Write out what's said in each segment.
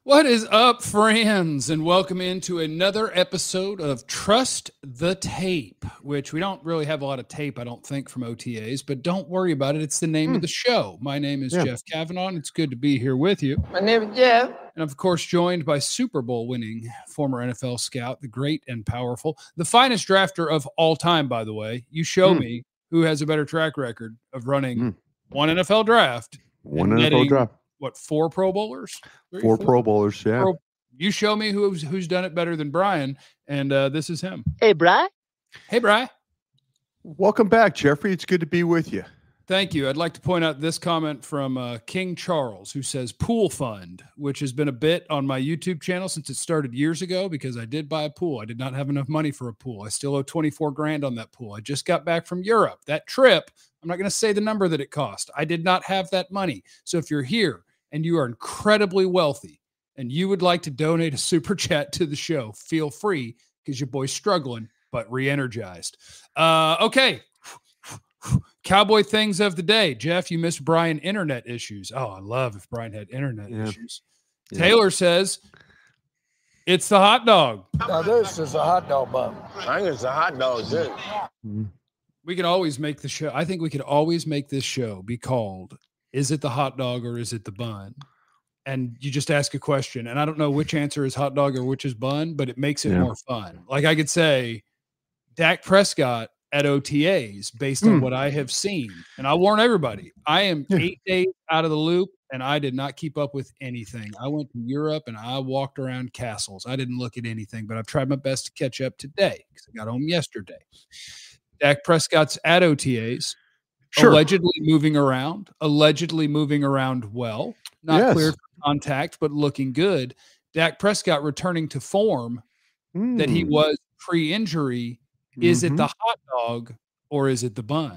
What is up, friends? And welcome into another episode of Trust the Tape, which we don't really have a lot of tape, I don't think, from OTAs, but don't worry about it. It's the name of the show. My name is Jeff Kavanaugh, and it's good to be here with you. My name is Jeff. And of course, joined by Super Bowl winning former NFL scout, the great and powerful, the finest drafter of all time, by the way. You show me who has a better track record of running one NFL draft. One NFL draft. What, 4 Pro Bowlers? Four Pro Bowlers, yeah. You show me who's done it better than Brian, and this is him. Hey, Bri. Hey, Bri. Welcome back, Jeffrey. It's good to be with you. Thank you. I'd like to point out this comment from King Charles, who says pool fund, which has been a bit on my YouTube channel since it started years ago because I did buy a pool. I did not have enough money for a pool. I still owe 24 grand on that pool. I just got back from Europe. That trip, I'm not going to say the number that it cost. I did not have that money. So if you're here and you are incredibly wealthy and you would like to donate a super chat to the show, feel free because your boy's struggling, but re-energized. Okay. Cowboy things of the day. Jeff, you missed Brian internet issues. Oh, I love if Brian had internet issues. Yeah. Taylor says, it's the hot dog. Now this is a hot dog bun. I think it's a hot dog, too. We can always make the show. I think we could always make this show be called, is it the hot dog or is it the bun? And you just ask a question. And I don't know which answer is hot dog or which is bun, but it makes it more fun. Like I could say, Dak Prescott at OTAs based on what I have seen. And I warn everybody, I am 8 days out of the loop and I did not keep up with anything. I went to Europe and I walked around castles. I didn't look at anything, but I've tried my best to catch up today because I got home yesterday. Dak Prescott's at OTAs, allegedly moving around well, not clear for contact, but looking good. Dak Prescott returning to form that he was pre-injury. Is it the hot dog or is it the bun?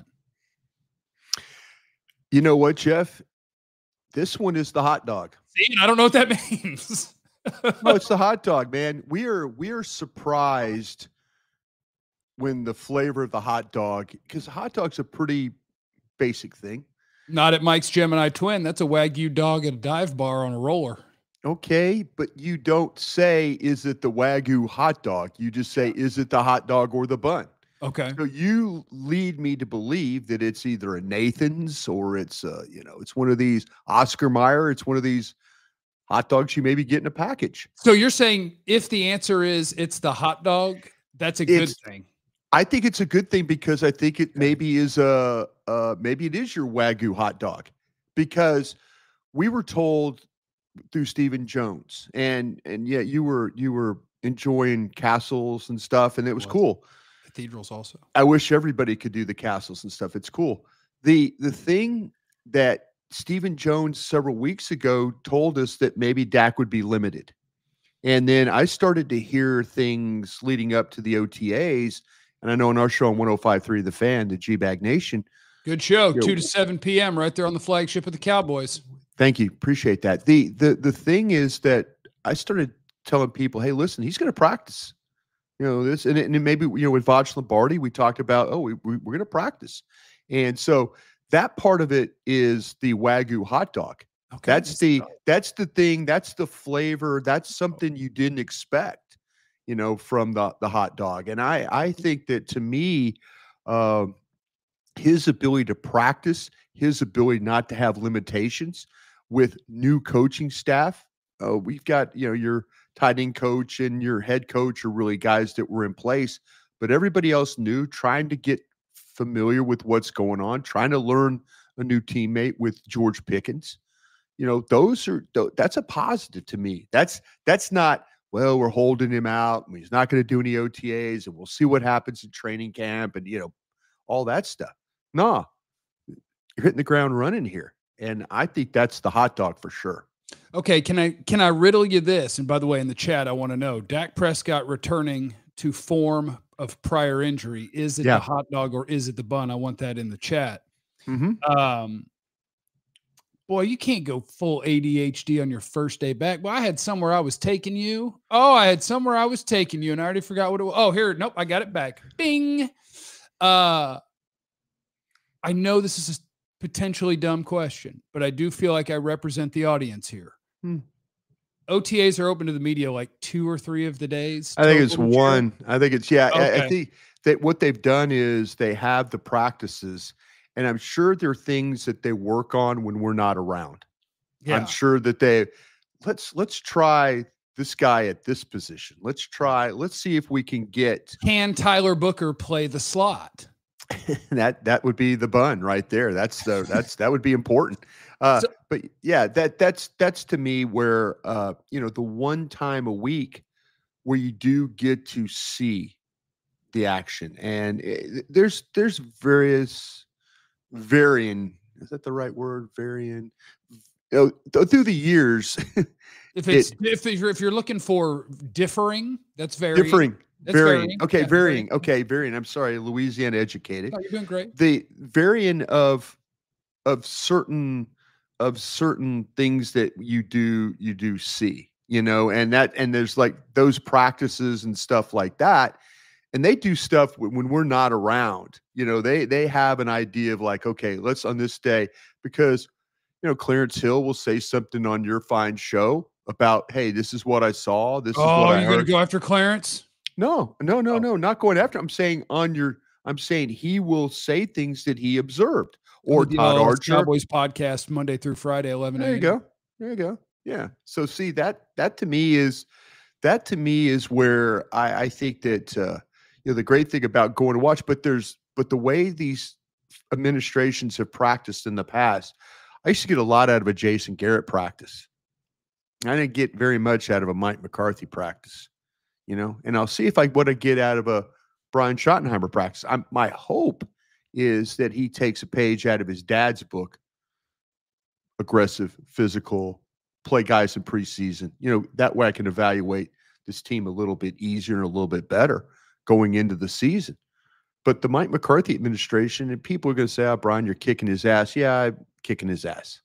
You know what, Jeff? This one is the hot dog. See, I don't know what that means. No, it's the hot dog, man. We are surprised when the flavor of the hot dog, because hot dog's a pretty basic thing. Not at Mike's Gemini Twin. That's a Wagyu dog at a dive bar on a roller. Okay, but you don't say, is it the Wagyu hot dog? You just say, is it the hot dog or the bun? Okay. So you lead me to believe that it's either a Nathan's or it's, it's one of these Oscar Mayer. It's one of these hot dogs you maybe get in a package. So you're saying if the answer is it's the hot dog, that's a good thing. I think it's a good thing because I think it maybe is maybe it is your Wagyu hot dog, because we were told through Stephen Jones and yeah, you were enjoying castles and stuff, and it was cool. Cathedrals also. I wish everybody could do the castles and stuff. It's cool. The thing that Stephen Jones several weeks ago told us that maybe Dak would be limited. And then I started to hear things leading up to the OTAs. And I know in our show on 105.3 The Fan, the G-Bag Nation. Good show, 2 to 7 p.m. right there on the flagship of the Cowboys. Thank you. Appreciate that. The thing is that I started telling people, hey, listen, he's going to practice. This, and maybe, with Vaj Lombardi, we talked about, we're going to practice. And so that part of it is the Wagyu hot dog. Okay, that's the thing. That's the flavor. That's something you didn't expect, from the hot dog. And I think that, to me, his ability to practice, his ability not to have limitations with new coaching staff. We've got, your tight end coach and your head coach are really guys that were in place, but everybody else new, trying to get familiar with what's going on, trying to learn a new teammate with George Pickens. That's a positive to me. That's not, well, we're holding him out and he's not going to do any OTAs and we'll see what happens in training camp and, all that stuff. Nah, you're hitting the ground running here. And I think that's the hot dog for sure. Okay, can I riddle you this? And by the way, in the chat, I want to know, Dak Prescott returning to form of prior injury, is it the hot dog or is it the bun? I want that in the chat. Boy, you can't go full ADHD on your first day back. Well, I had somewhere I was taking you. Oh, I had somewhere I was taking you, and I already forgot what it was. Oh, here. Nope, I got it back. Bing. I know this is a potentially dumb question, but I do feel like I represent the audience here. OTAs are open to the media like 2 or 3 of the days. I think it's total each year? one. I think it's I Okay. think that what they've done is they have the practices, and I'm sure there are things that they work on when we're not around. Yeah. I'm sure that let's try this guy at this position. Let's see if we can get Can Tyler Booker play the slot? that would be the bun right there. That would be important. But yeah, that's to me where the one time a week where you do get to see the action, and there's various varying. Is that the right word? Varying. Through the years, if you're looking for differing, that's varying. Varying. Okay, Yeah, varying. Okay, varying. I'm sorry, Louisiana educated. Oh, you're doing great. The varying of certain things that you do see, and there's like those practices and stuff like that. And they do stuff when we're not around. They have an idea of like, okay, let's on this day, because Clarence Hill will say something on your fine show about, hey, this is what I saw. This is what I heard. You're going to go after Clarence? No, not going after. I'm saying he will say things that he observed. Or Todd Archer. Cowboys podcast Monday through Friday, 11 a.m. There you go. Yeah. So see that to me is where I think that the great thing about going to watch, but the way these administrations have practiced in the past, I used to get a lot out of a Jason Garrett practice. I didn't get very much out of a Mike McCarthy practice, and I'll see if I what I get out of a Brian Schottenheimer practice. My hope is that he takes a page out of his dad's book, aggressive, physical, play guys in preseason. That way I can evaluate this team a little bit easier and a little bit better going into the season. But the Mike McCarthy administration, and people are going to say, oh, Brian, you're kicking his ass. Yeah, I'm kicking his ass.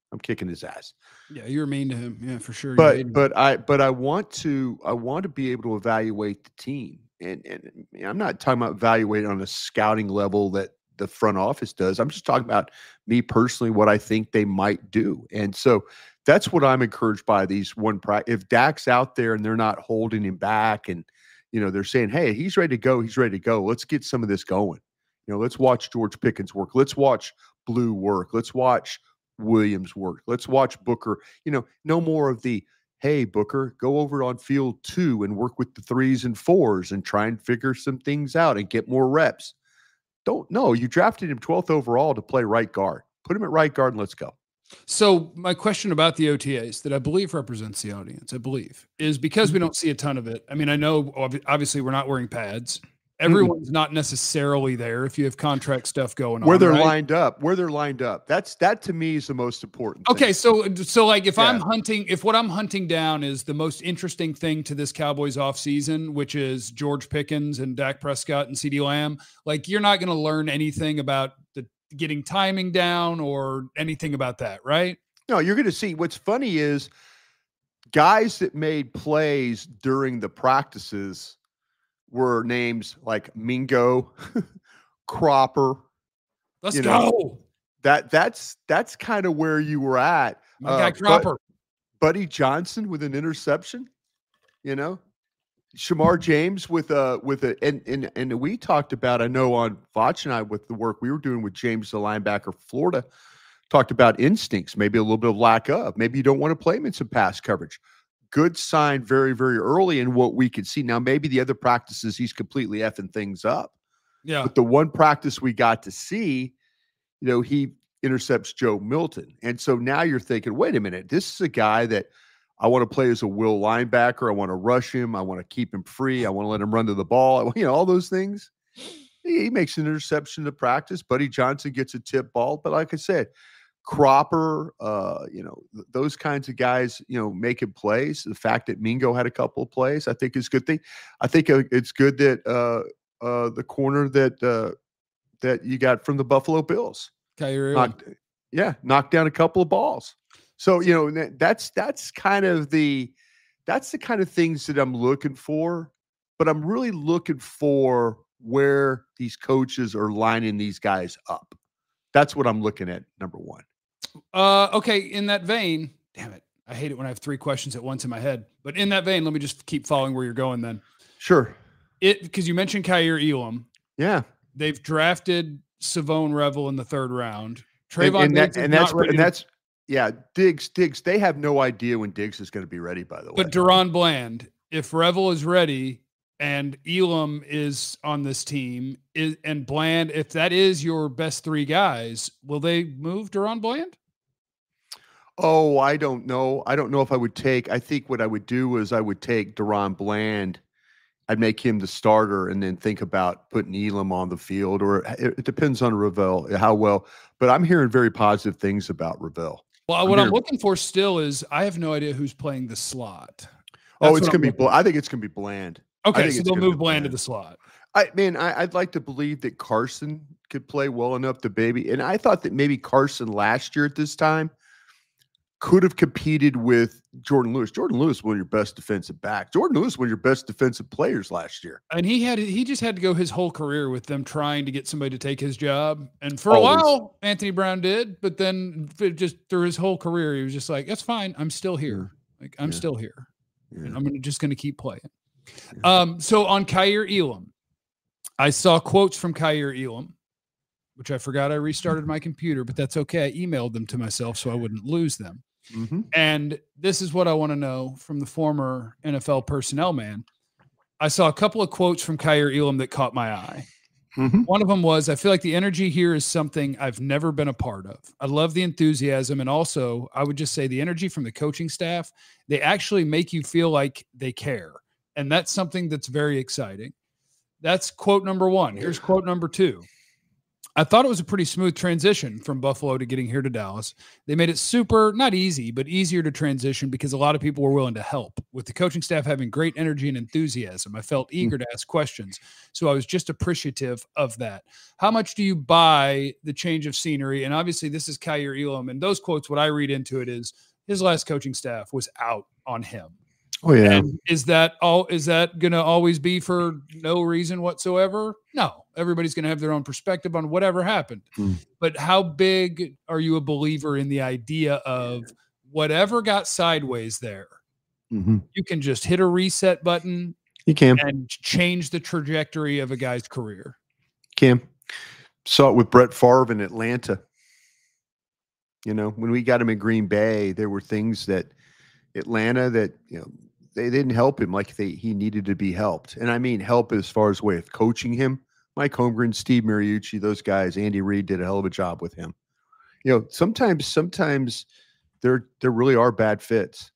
Yeah, you're mean to him. Yeah, for sure. But I want to be able to evaluate the team. And I'm not talking about evaluating on a scouting level that the front office does. I'm just talking about me personally, what I think they might do. And so that's what I'm encouraged by these if Dak's out there and they're not holding him back and, they're saying, hey, he's ready to go. Let's get some of this going. Let's watch George Pickens work. Let's watch Blue work. Let's watch Williams work. Let's watch Booker. No more of the, hey, Booker, go over on field 2 and work with the 3s and 4s and try and figure some things out and get more reps. You drafted him 12th overall to play right guard. Put him at right guard and let's go. So my question about the OTAs that I believe represents the audience, is because we don't see a ton of it. I mean, I know obviously we're not wearing pads. Everyone's not necessarily there if you have contract stuff going on. Where they're lined up. That to me is the most important thing. Okay, so like if what I'm hunting down is the most interesting thing to this Cowboys offseason, which is George Pickens and Dak Prescott and CeeDee Lamb, like you're not going to learn anything about the getting timing down or anything about that, right? No, you're going to see. What's funny is guys that made plays during the practices were names like Mingo, Cropper. Let's go. That's kind of where you were at. My guy Cropper. Buddy Johnson with an interception, Shamar James and we talked about, I know on Vach and I, with the work we were doing with James, the linebacker, Florida, talked about instincts, maybe a little bit of lack of, maybe you don't want to play him in some pass coverage. Good sign very, very early in what we could see. Now, maybe the other practices, he's completely effing things up. Yeah. But the one practice we got to see, he intercepts Joe Milton. And so now you're thinking, wait a minute, this is a guy that I want to play as a will linebacker. I want to rush him. I want to keep him free. I want to let him run to the ball. All those things. He makes an interception to practice. Buddy Johnson gets a tip ball. But like I said, Cropper, those kinds of guys, making plays. The fact that Mingo had a couple of plays, I think is a good thing. I think it's good that the corner that you got from the Buffalo Bills knocked down a couple of balls. So that's kind of the kind of things that I'm looking for. But I'm really looking for where these coaches are lining these guys up. That's what I'm looking at. Number one. Okay. In that vein, damn it. I hate it when I have 3 questions at once in my head. But in that vein, let me just keep following where you're going then. Sure. Because you mentioned Kaiir Elam. Yeah. They've drafted Savone Revel in the 3rd round. And Diggs. Diggs. They have no idea when Diggs is going to be ready, by the way. But Deron Bland, if Revel is ready and Elam is on this team, and Bland, if that is your best 3 guys, will they move Deron Bland? Oh, I don't know. I don't know if I would take. I think what I would do is I would take Deron Bland. I'd make him the starter and then think about putting Elam on the field, or it depends on Revel, how well. But I'm hearing very positive things about Revel. Well, I'm looking for still is I have no idea who's playing the slot. It's going to be. I think it's going to be Bland. Okay, so they'll move Bland to the slot. I'd like to believe that Carson could play well enough to baby. And I thought that maybe Carson last year at this time could have competed with Jordan Lewis. Jordan Lewis was one of your best defensive backs. Jordan Lewis was one of your best defensive players last year. And he just had to go his whole career with them trying to get somebody to take his job. And for a while, Anthony Brown did, but then just through his whole career, he was just like, that's fine. I'm still here. I'm still here. Yeah. And I'm just going to keep playing. Yeah. So on Kaiir Elam, I saw quotes from Kaiir Elam, which I forgot I restarted my computer, but that's okay. I emailed them to myself so I wouldn't lose them. Mm-hmm. And this is what I want to know from the former NFL personnel man. I saw a couple of quotes from Kaiir Elam that caught my eye. Mm-hmm. One of them was, I feel like the energy here is something I've never been a part of. I love the enthusiasm. And also, I would just say the energy from the coaching staff, they actually make you feel like they care. And that's something that's very exciting. That's quote number 1. Here's quote number 2. I thought it was a pretty smooth transition from Buffalo to getting here to Dallas. They made it super, not easy, but easier to transition because a lot of people were willing to help. With the coaching staff having great energy and enthusiasm, I felt eager to ask questions. So I was just appreciative of that. How much do you buy the change of scenery? And obviously this is Kaiir Elam. And those quotes, what I read into it is his last coaching staff was out on him. Oh yeah. And is that going to always be for no reason whatsoever? No, everybody's going to have their own perspective on whatever happened. But how big are you a believer in the idea of whatever got sideways there? You can just hit a reset button. You can and change the trajectory of a guy's career. Saw it with Brett Favre in Atlanta. You know, when we got him in Green Bay, there were things that Atlanta that, you know, they didn't help him like he needed to be helped. And I mean help as far as way of coaching him. Mike Holmgren, Steve Mariucci, those guys, Andy Reid did a hell of a job with him. You know, sometimes there really are bad fits.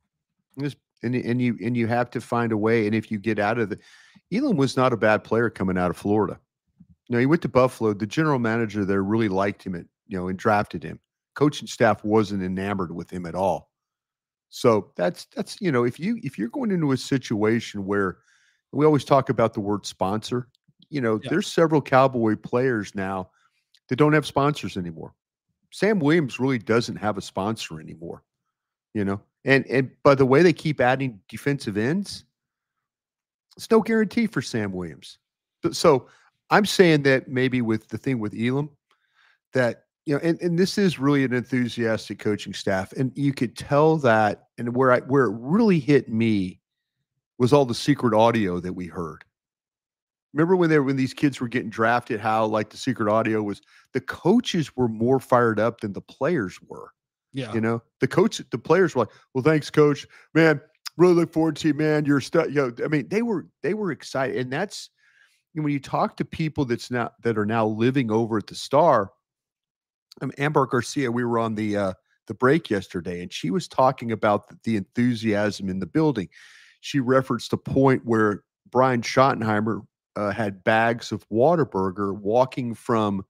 And you have to find a way. And if you get out of Elam was not a bad player coming out of Florida. You know, he went to Buffalo. The general manager there really liked him and drafted him. Coaching staff wasn't enamored with him at all. So that's you know, if you're going into a situation where we always talk about the word sponsor, you know, there's several Cowboy players now that don't have sponsors anymore. Sam Williams really doesn't have a sponsor anymore, you know. And by the way they keep adding defensive ends, it's no guarantee for Sam Williams. So I'm saying that maybe with the thing with Elam, that you know, and this is really an enthusiastic coaching staff, and you could tell that. And where it really hit me was all the secret audio that we heard. Remember when these kids were getting drafted, how like the secret audio was the coaches were more fired up than the players were. Yeah, you know, the players were like, "Well, thanks, coach. Man, really look forward to you, man. You're you know, I mean, they were excited, and that's when you talk to people that are now living over at the Star. Amber Garcia, we were on the break yesterday, and she was talking about the enthusiasm in the building. She referenced a point where Brian Schottenheimer had bags of Whataburger walking from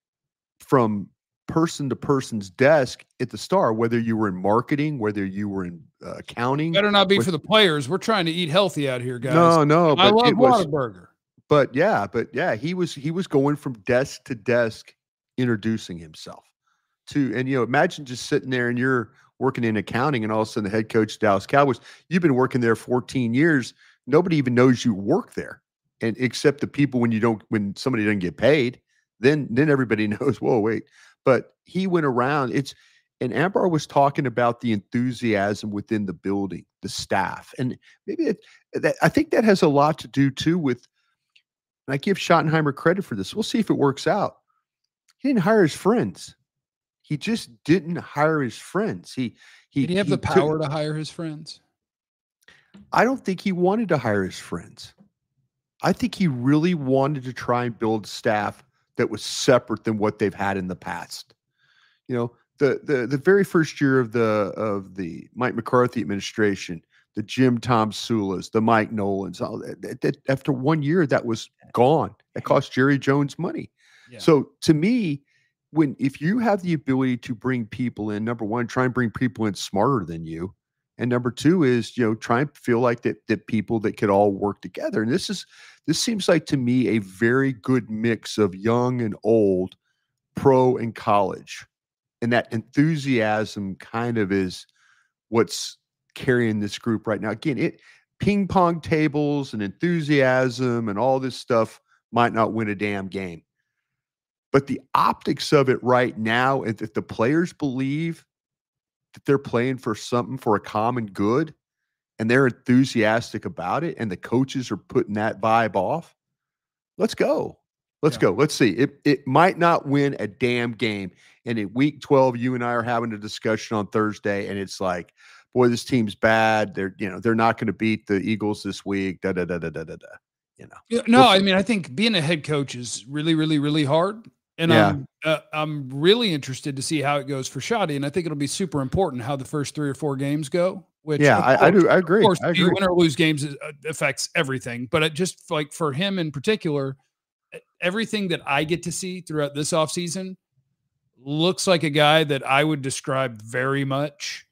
person to person's desk at the Star, whether you were in marketing, whether you were in accounting. Better not be for the players. We're trying to eat healthy out here, guys. No. I love Whataburger. But yeah, he was going from desk to desk, introducing himself and you know, imagine just sitting there and you're working in accounting and all of a sudden the head coach of Dallas Cowboys, you've been working there 14 years. Nobody even knows you work there. And except the people when somebody doesn't get paid, then everybody knows, whoa, wait. But he went around. And Ambar was talking about the enthusiasm within the building, the staff. And maybe I think that has a lot to do too with, and I give Schottenheimer credit for this. We'll see if it works out. He didn't hire his friends. He just didn't hire his friends. Did he have the power to hire his friends? I don't think he wanted to hire his friends. I think he really wanted to try and build staff that was separate than what they've had in the past. You know, the very first year of the Mike McCarthy administration, the Jim Tom Sulas, the Mike Nolans, all that, after 1 year, that was gone. That cost Jerry Jones money. Yeah. So to me, if you have the ability to bring people in, number one, try and bring people in smarter than you. And number two is, try and feel like that people that could all work together. And this seems like to me a very good mix of young and old, pro and college. And that enthusiasm kind of is what's carrying this group right now. Again, ping pong tables and enthusiasm and all this stuff might not win a damn game. But the optics of it right now, if the players believe that they're playing for something, for a common good, and they're enthusiastic about it, and the coaches are putting that vibe off, let's go. Let's go. Let's see. It might not win a damn game. And in week 12, you and I are having a discussion on Thursday, and it's like, boy, this team's bad. They're not going to beat the Eagles this week. Da da da da da da da. No, I mean, I think being a head coach is really, really, really hard. And I'm really interested to see how it goes for Shotty, and I think it'll be super important how the first 3 or 4 games go. Which I do. I agree. Of course, I agree. Win or lose games affects everything, but it just like for him in particular, everything that I get to see throughout this offseason looks like a guy that I would describe very much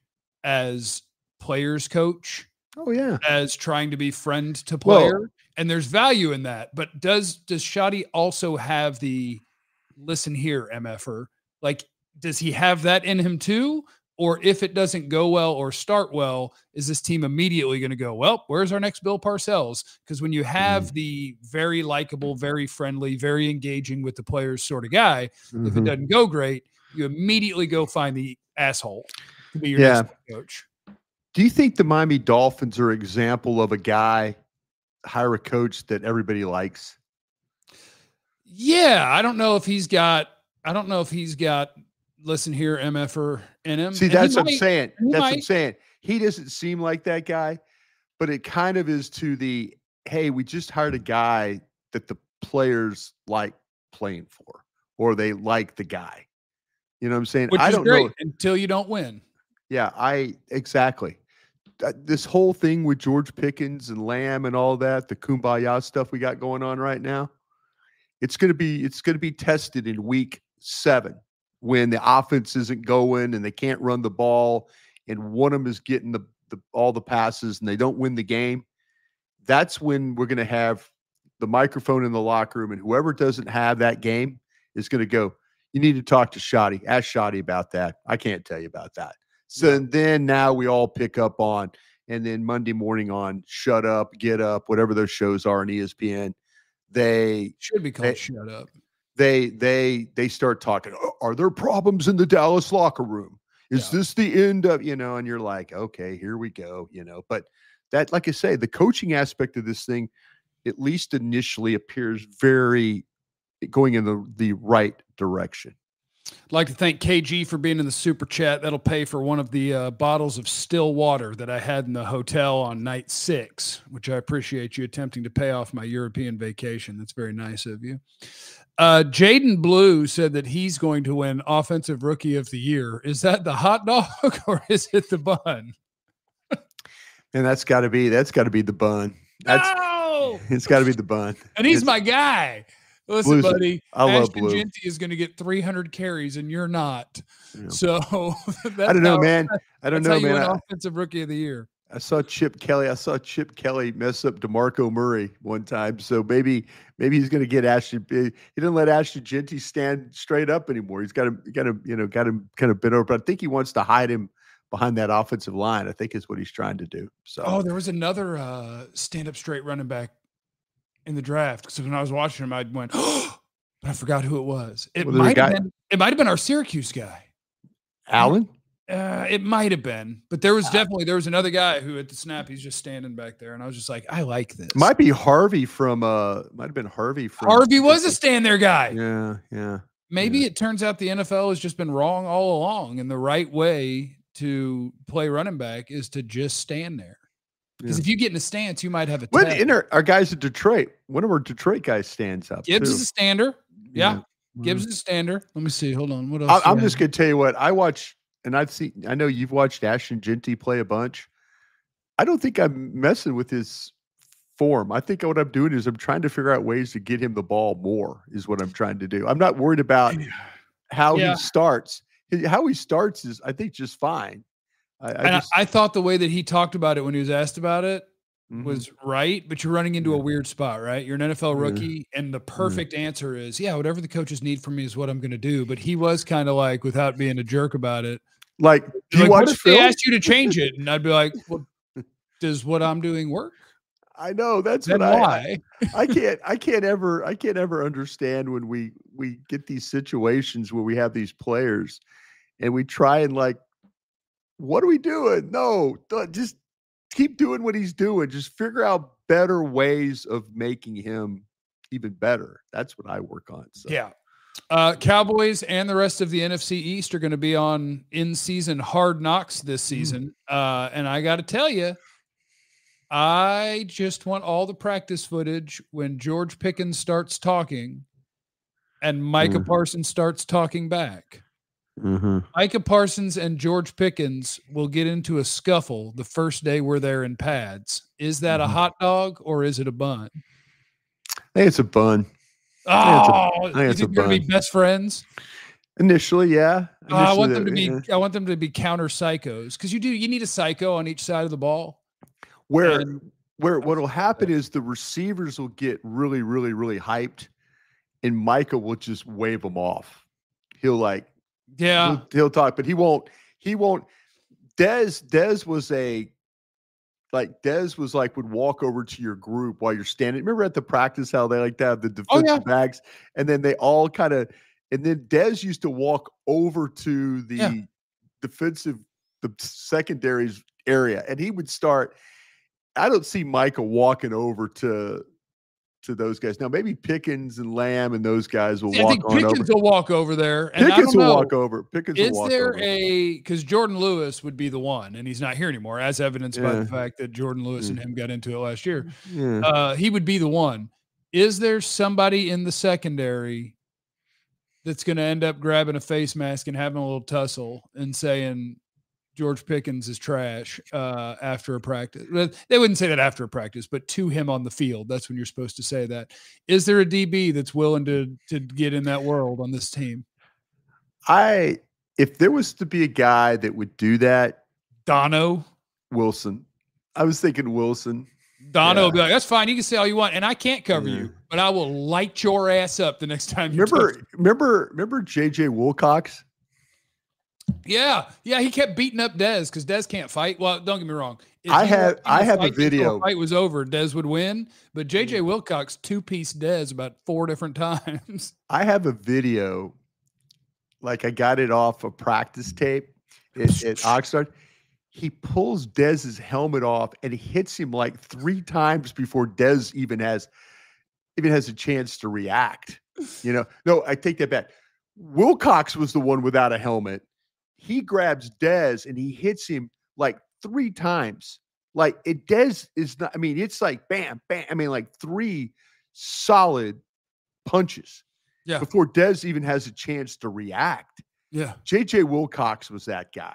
as players coach. Oh yeah, as trying to be friend to player, and there's value in that. But does Shotty also have the listen here, MFer? Like, does he have that in him too? Or if it doesn't go well or start well, is this team immediately going to go, well, where's our next Bill Parcells? Because when you have the very likable, very friendly, very engaging with the players sort of guy, if it doesn't go great, you immediately go find the asshole to be your next coach. Do you think the Miami Dolphins are an example of a guy hire a coach that everybody likes? Yeah, I don't know if he's got listen here, MFer in him. See, that's what I'm saying. That's what I'm saying. He doesn't seem like that guy, but it kind of is to the, hey, we just hired a guy that the players like playing for, or they like the guy. You know what I'm saying? Which is great until you don't win. Yeah, exactly. This whole thing with George Pickens and Lamb and all that, the kumbaya stuff we got going on right now, it's going to be tested in week 7 when the offense isn't going and they can't run the ball and one of them is getting all the passes and they don't win the game. That's when we're going to have the microphone in the locker room, and whoever doesn't have that game is going to go, you need to talk to Shotty. Ask Shotty about that. I can't tell you about that. So then now we all pick up on, and then Monday morning on Shut Up, Get Up, whatever those shows are on ESPN, they should be called Shut Up. They start talking. Are there problems in the Dallas locker room? Is this the end of, and you're like, okay, here we go, but that, like I say, the coaching aspect of this thing, at least initially, appears very going in the right direction. I'd like to thank KG for being in the super chat. That'll pay for one of the bottles of still water that I had in the hotel on night 6, which I appreciate you attempting to pay off my European vacation. That's very nice of you. Jaden Blue said that he's going to win Offensive Rookie of the Year. Is that the hot dog or is it the bun? And that's got to be the bun. It's got to be the bun. And he's my guy. Listen, Blue's, buddy, I love Blue. Jeanty is going to get 300 carries, and you're not. Yeah. So I don't know, man. I don't know, man. Offensive Rookie of the Year. I saw Chip Kelly mess up DeMarco Murray one time. So maybe he's going to get Ashton. He didn't let Ashton Jeanty stand straight up anymore. He's got him kind of bent over. But I think he wants to hide him behind that offensive line. I think is what he's trying to do. So there was another stand-up straight running back in the draft. So when I was watching him, I went, oh, but I forgot who it was. It might have been our Syracuse guy. Allen? It might have been, but there was another guy who at the snap, he's just standing back there. And I was just like, I like this. Might be Harvey from, might have been Harvey from. Harvey was a stand there guy. Yeah. Yeah. Maybe it turns out the NFL has just been wrong all along. And the right way to play running back is to just stand there. Because if you get in a stance, you might have a tag. Our guys at Detroit, one of our Detroit guys stands up. Gibbs too. is a stander. Yeah. Gibbs is a stander. Let me see. Hold on. What else? I'm just going to tell you what I watch. And I know you've watched Ashton Jeanty play a bunch. I don't think I'm messing with his form. I think what I'm doing is I'm trying to figure out ways to get him the ball more is what I'm trying to do. I'm not worried about how he starts. How he starts is, I think, just fine. I thought the way that he talked about it when he was asked about it was right, but you're running into a weird spot, right? You're an NFL rookie, and the perfect answer is, whatever the coaches need from me is what I'm going to do. But he was kind of like, without being a jerk about it, like, what if they asked you to change it? And I'd be like, well, does what I'm doing work? I know that's then what why? I can't ever understand when we get these situations where we have these players and we try and like, what are we doing? No, just keep doing what he's doing. Just figure out better ways of making him even better. That's what I work on. So. Yeah. Cowboys and the rest of the NFC East are going to be on in-season Hard Knocks this season. And I got to tell you, I just want all the practice footage when George Pickens starts talking and Micah Parsons starts talking back. Micah Parsons and George Pickens will get into a scuffle the first day where they're in pads. Is that a hot dog or is it a bun? I think it's a bun. Oh, you think they're going to be best friends? Initially, yeah. I want them to be. I want them to be counter psychos because you need a psycho on each side of the ball. Where what will happen is the receivers will get really, really, really hyped, and Micah will just wave them off. He'll like. Yeah, he'll talk, but he won't. Dez was would walk over to your group while you're standing. Remember at the practice how they like to have the defensive bags, and then they all kind of. And then Dez used to walk over to the the secondaries area, and he would start. I don't see Micah walking over to those guys. Now, maybe Pickens and Lamb and those guys will walk on over. Pickens will walk over there. And Pickens will walk over. Because Jordan Lewis would be the one, and he's not here anymore, as evidenced by the fact that Jordan Lewis and him got into it last year. Yeah. He would be the one. Is there somebody in the secondary that's going to end up grabbing a face mask and having a little tussle and saying George Pickens is trash after a practice? They wouldn't say that after a practice, but to him on the field, that's when you're supposed to say that. Is there a DB that's willing to get in that world on this team? If there was to be a guy that would do that, Dono Wilson. I was thinking Wilson. Dono would be like, that's fine. You can say all you want, and I can't cover you, but I will light your ass up the next time you remember J.J. Wilcox? Yeah. He kept beating up Dez because Dez can't fight. Well, don't get me wrong. I have a video. The fight was over. Dez would win, but J.J. Wilcox two-piece Dez about 4 different times. I have a video, like I got it off a practice tape at Oxnard. He pulls Dez's helmet off and he hits him like 3 times before Dez even has a chance to react. No, I take that back. Wilcox was the one without a helmet. He grabs Dez and he hits him like 3 times. Like Dez is not, it's like bam, bam. Like 3 solid punches before Dez even has a chance to react. Yeah. J.J. Wilcox was that guy,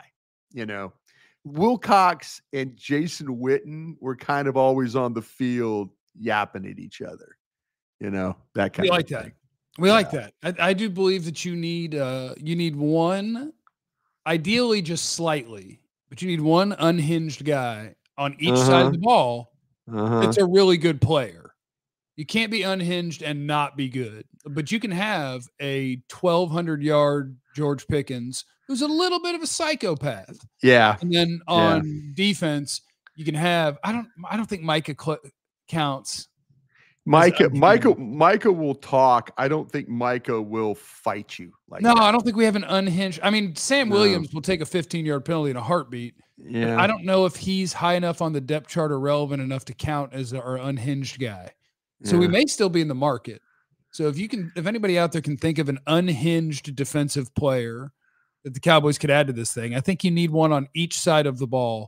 Wilcox and Jason Witten were kind of always on the field yapping at each other, that kind of thing. We like that. I do believe that you need one, ideally just slightly, but you need one unhinged guy on each side of the ball that's a really good player. You can't be unhinged and not be good, but you can have a 1,200-yard George Pickens who's a little bit of a psychopath. Yeah. And then on defense, you can have, I don't think Micah counts. Micah will talk. I don't think Micah will fight you. No, I don't think we have an unhinged. I mean, Sam Williams will take a 15-yard penalty in a heartbeat. Yeah. I don't know if he's high enough on the depth chart or relevant enough to count as our unhinged guy. So we may still be in the market. So if anybody out there can think of an unhinged defensive player that the Cowboys could add to this thing, I think you need one on each side of the ball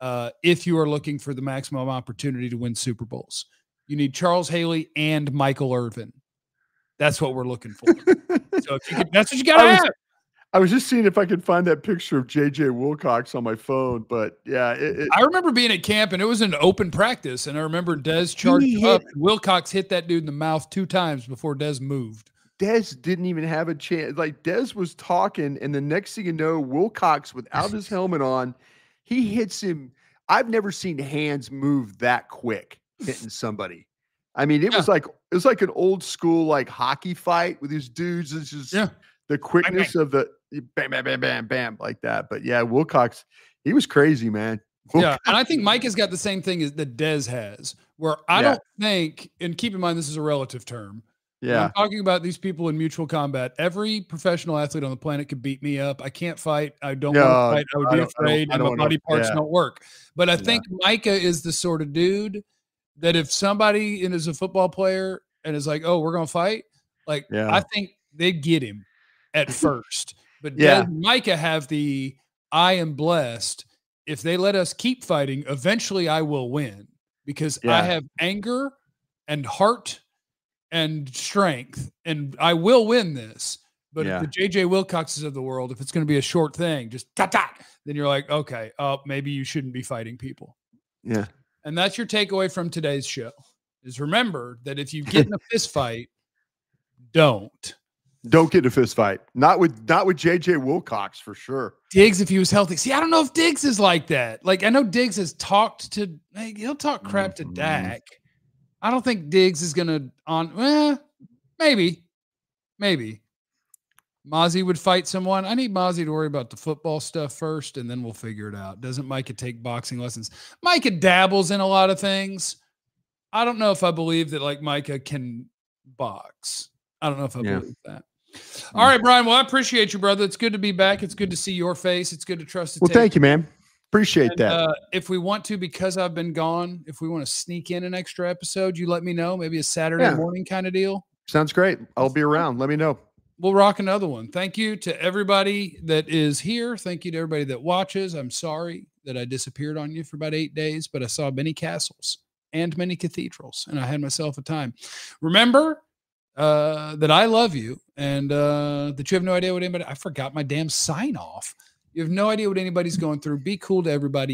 if you are looking for the maximum opportunity to win Super Bowls. You need Charles Haley and Michael Irvin. That's what we're looking for. So that's what you got to have. I was just seeing if I could find that picture of J.J. Wilcox on my phone, but yeah. I remember being at camp, and it was an open practice, and I remember Dez charged up. Wilcox hit that dude in the mouth 2 times before Dez moved. Dez didn't even have a chance. Like, Dez was talking, and the next thing you know, Wilcox, without his helmet on, he hits him. I've never seen hands move that quick hitting somebody. I mean, it was like an old school like hockey fight with these dudes. It's just the quickness of the bam, bam, bam, bam, bam, like that. But yeah, Wilcox, he was crazy, man. Yeah, and I think Mike has got the same thing as that Dez has, where I don't think, and keep in mind this is a relative term. Yeah, I'm talking about these people in mutual combat. Every professional athlete on the planet could beat me up. I can't fight. I don't want to fight. I would be afraid, and my body parts don't work. But I think Micah is the sort of dude that if somebody is a football player and is like, oh, we're going to fight, like, I think they'd get him at first. But Micah have the I am blessed. If they let us keep fighting, eventually I will win because I have anger and heart and strength, and I will win this. But if the J.J. Wilcoxes of the world, if it's going to be a short thing, just then you're like, okay, maybe you shouldn't be fighting people. Yeah. And that's your takeaway from today's show is remember that if you get in a fist fight, don't get in a fist fight. Not with J.J. Wilcox for sure. Diggs, if he was healthy. See, I don't know if Diggs is like that. Like, I know Diggs has talked to, he'll talk crap to Dak. I don't think Diggs is going to maybe. Mozzie would fight someone. I need Mozzie to worry about the football stuff first, and then we'll figure it out. Doesn't Micah take boxing lessons? Micah dabbles in a lot of things. I don't know if I believe that, like, Micah can box. I don't know if I believe that. All right, Brian. Well, I appreciate you, brother. It's good to be back. It's good to see your face. It's good to trust the tape. Thank you, man. Appreciate that. If we want to, because I've been gone, if we want to sneak in an extra episode, you let me know. Maybe a Saturday morning kind of deal. Sounds great. I'll be around. Let me know. We'll rock another one. Thank you to everybody that is here. Thank you to everybody that watches. I'm sorry that I disappeared on you for about 8 days, but I saw many castles and many cathedrals, and I had myself a time. Remember that I love you and that you have no idea what anybody – I forgot my damn sign-off. You have no idea what anybody's going through. Be cool to everybody.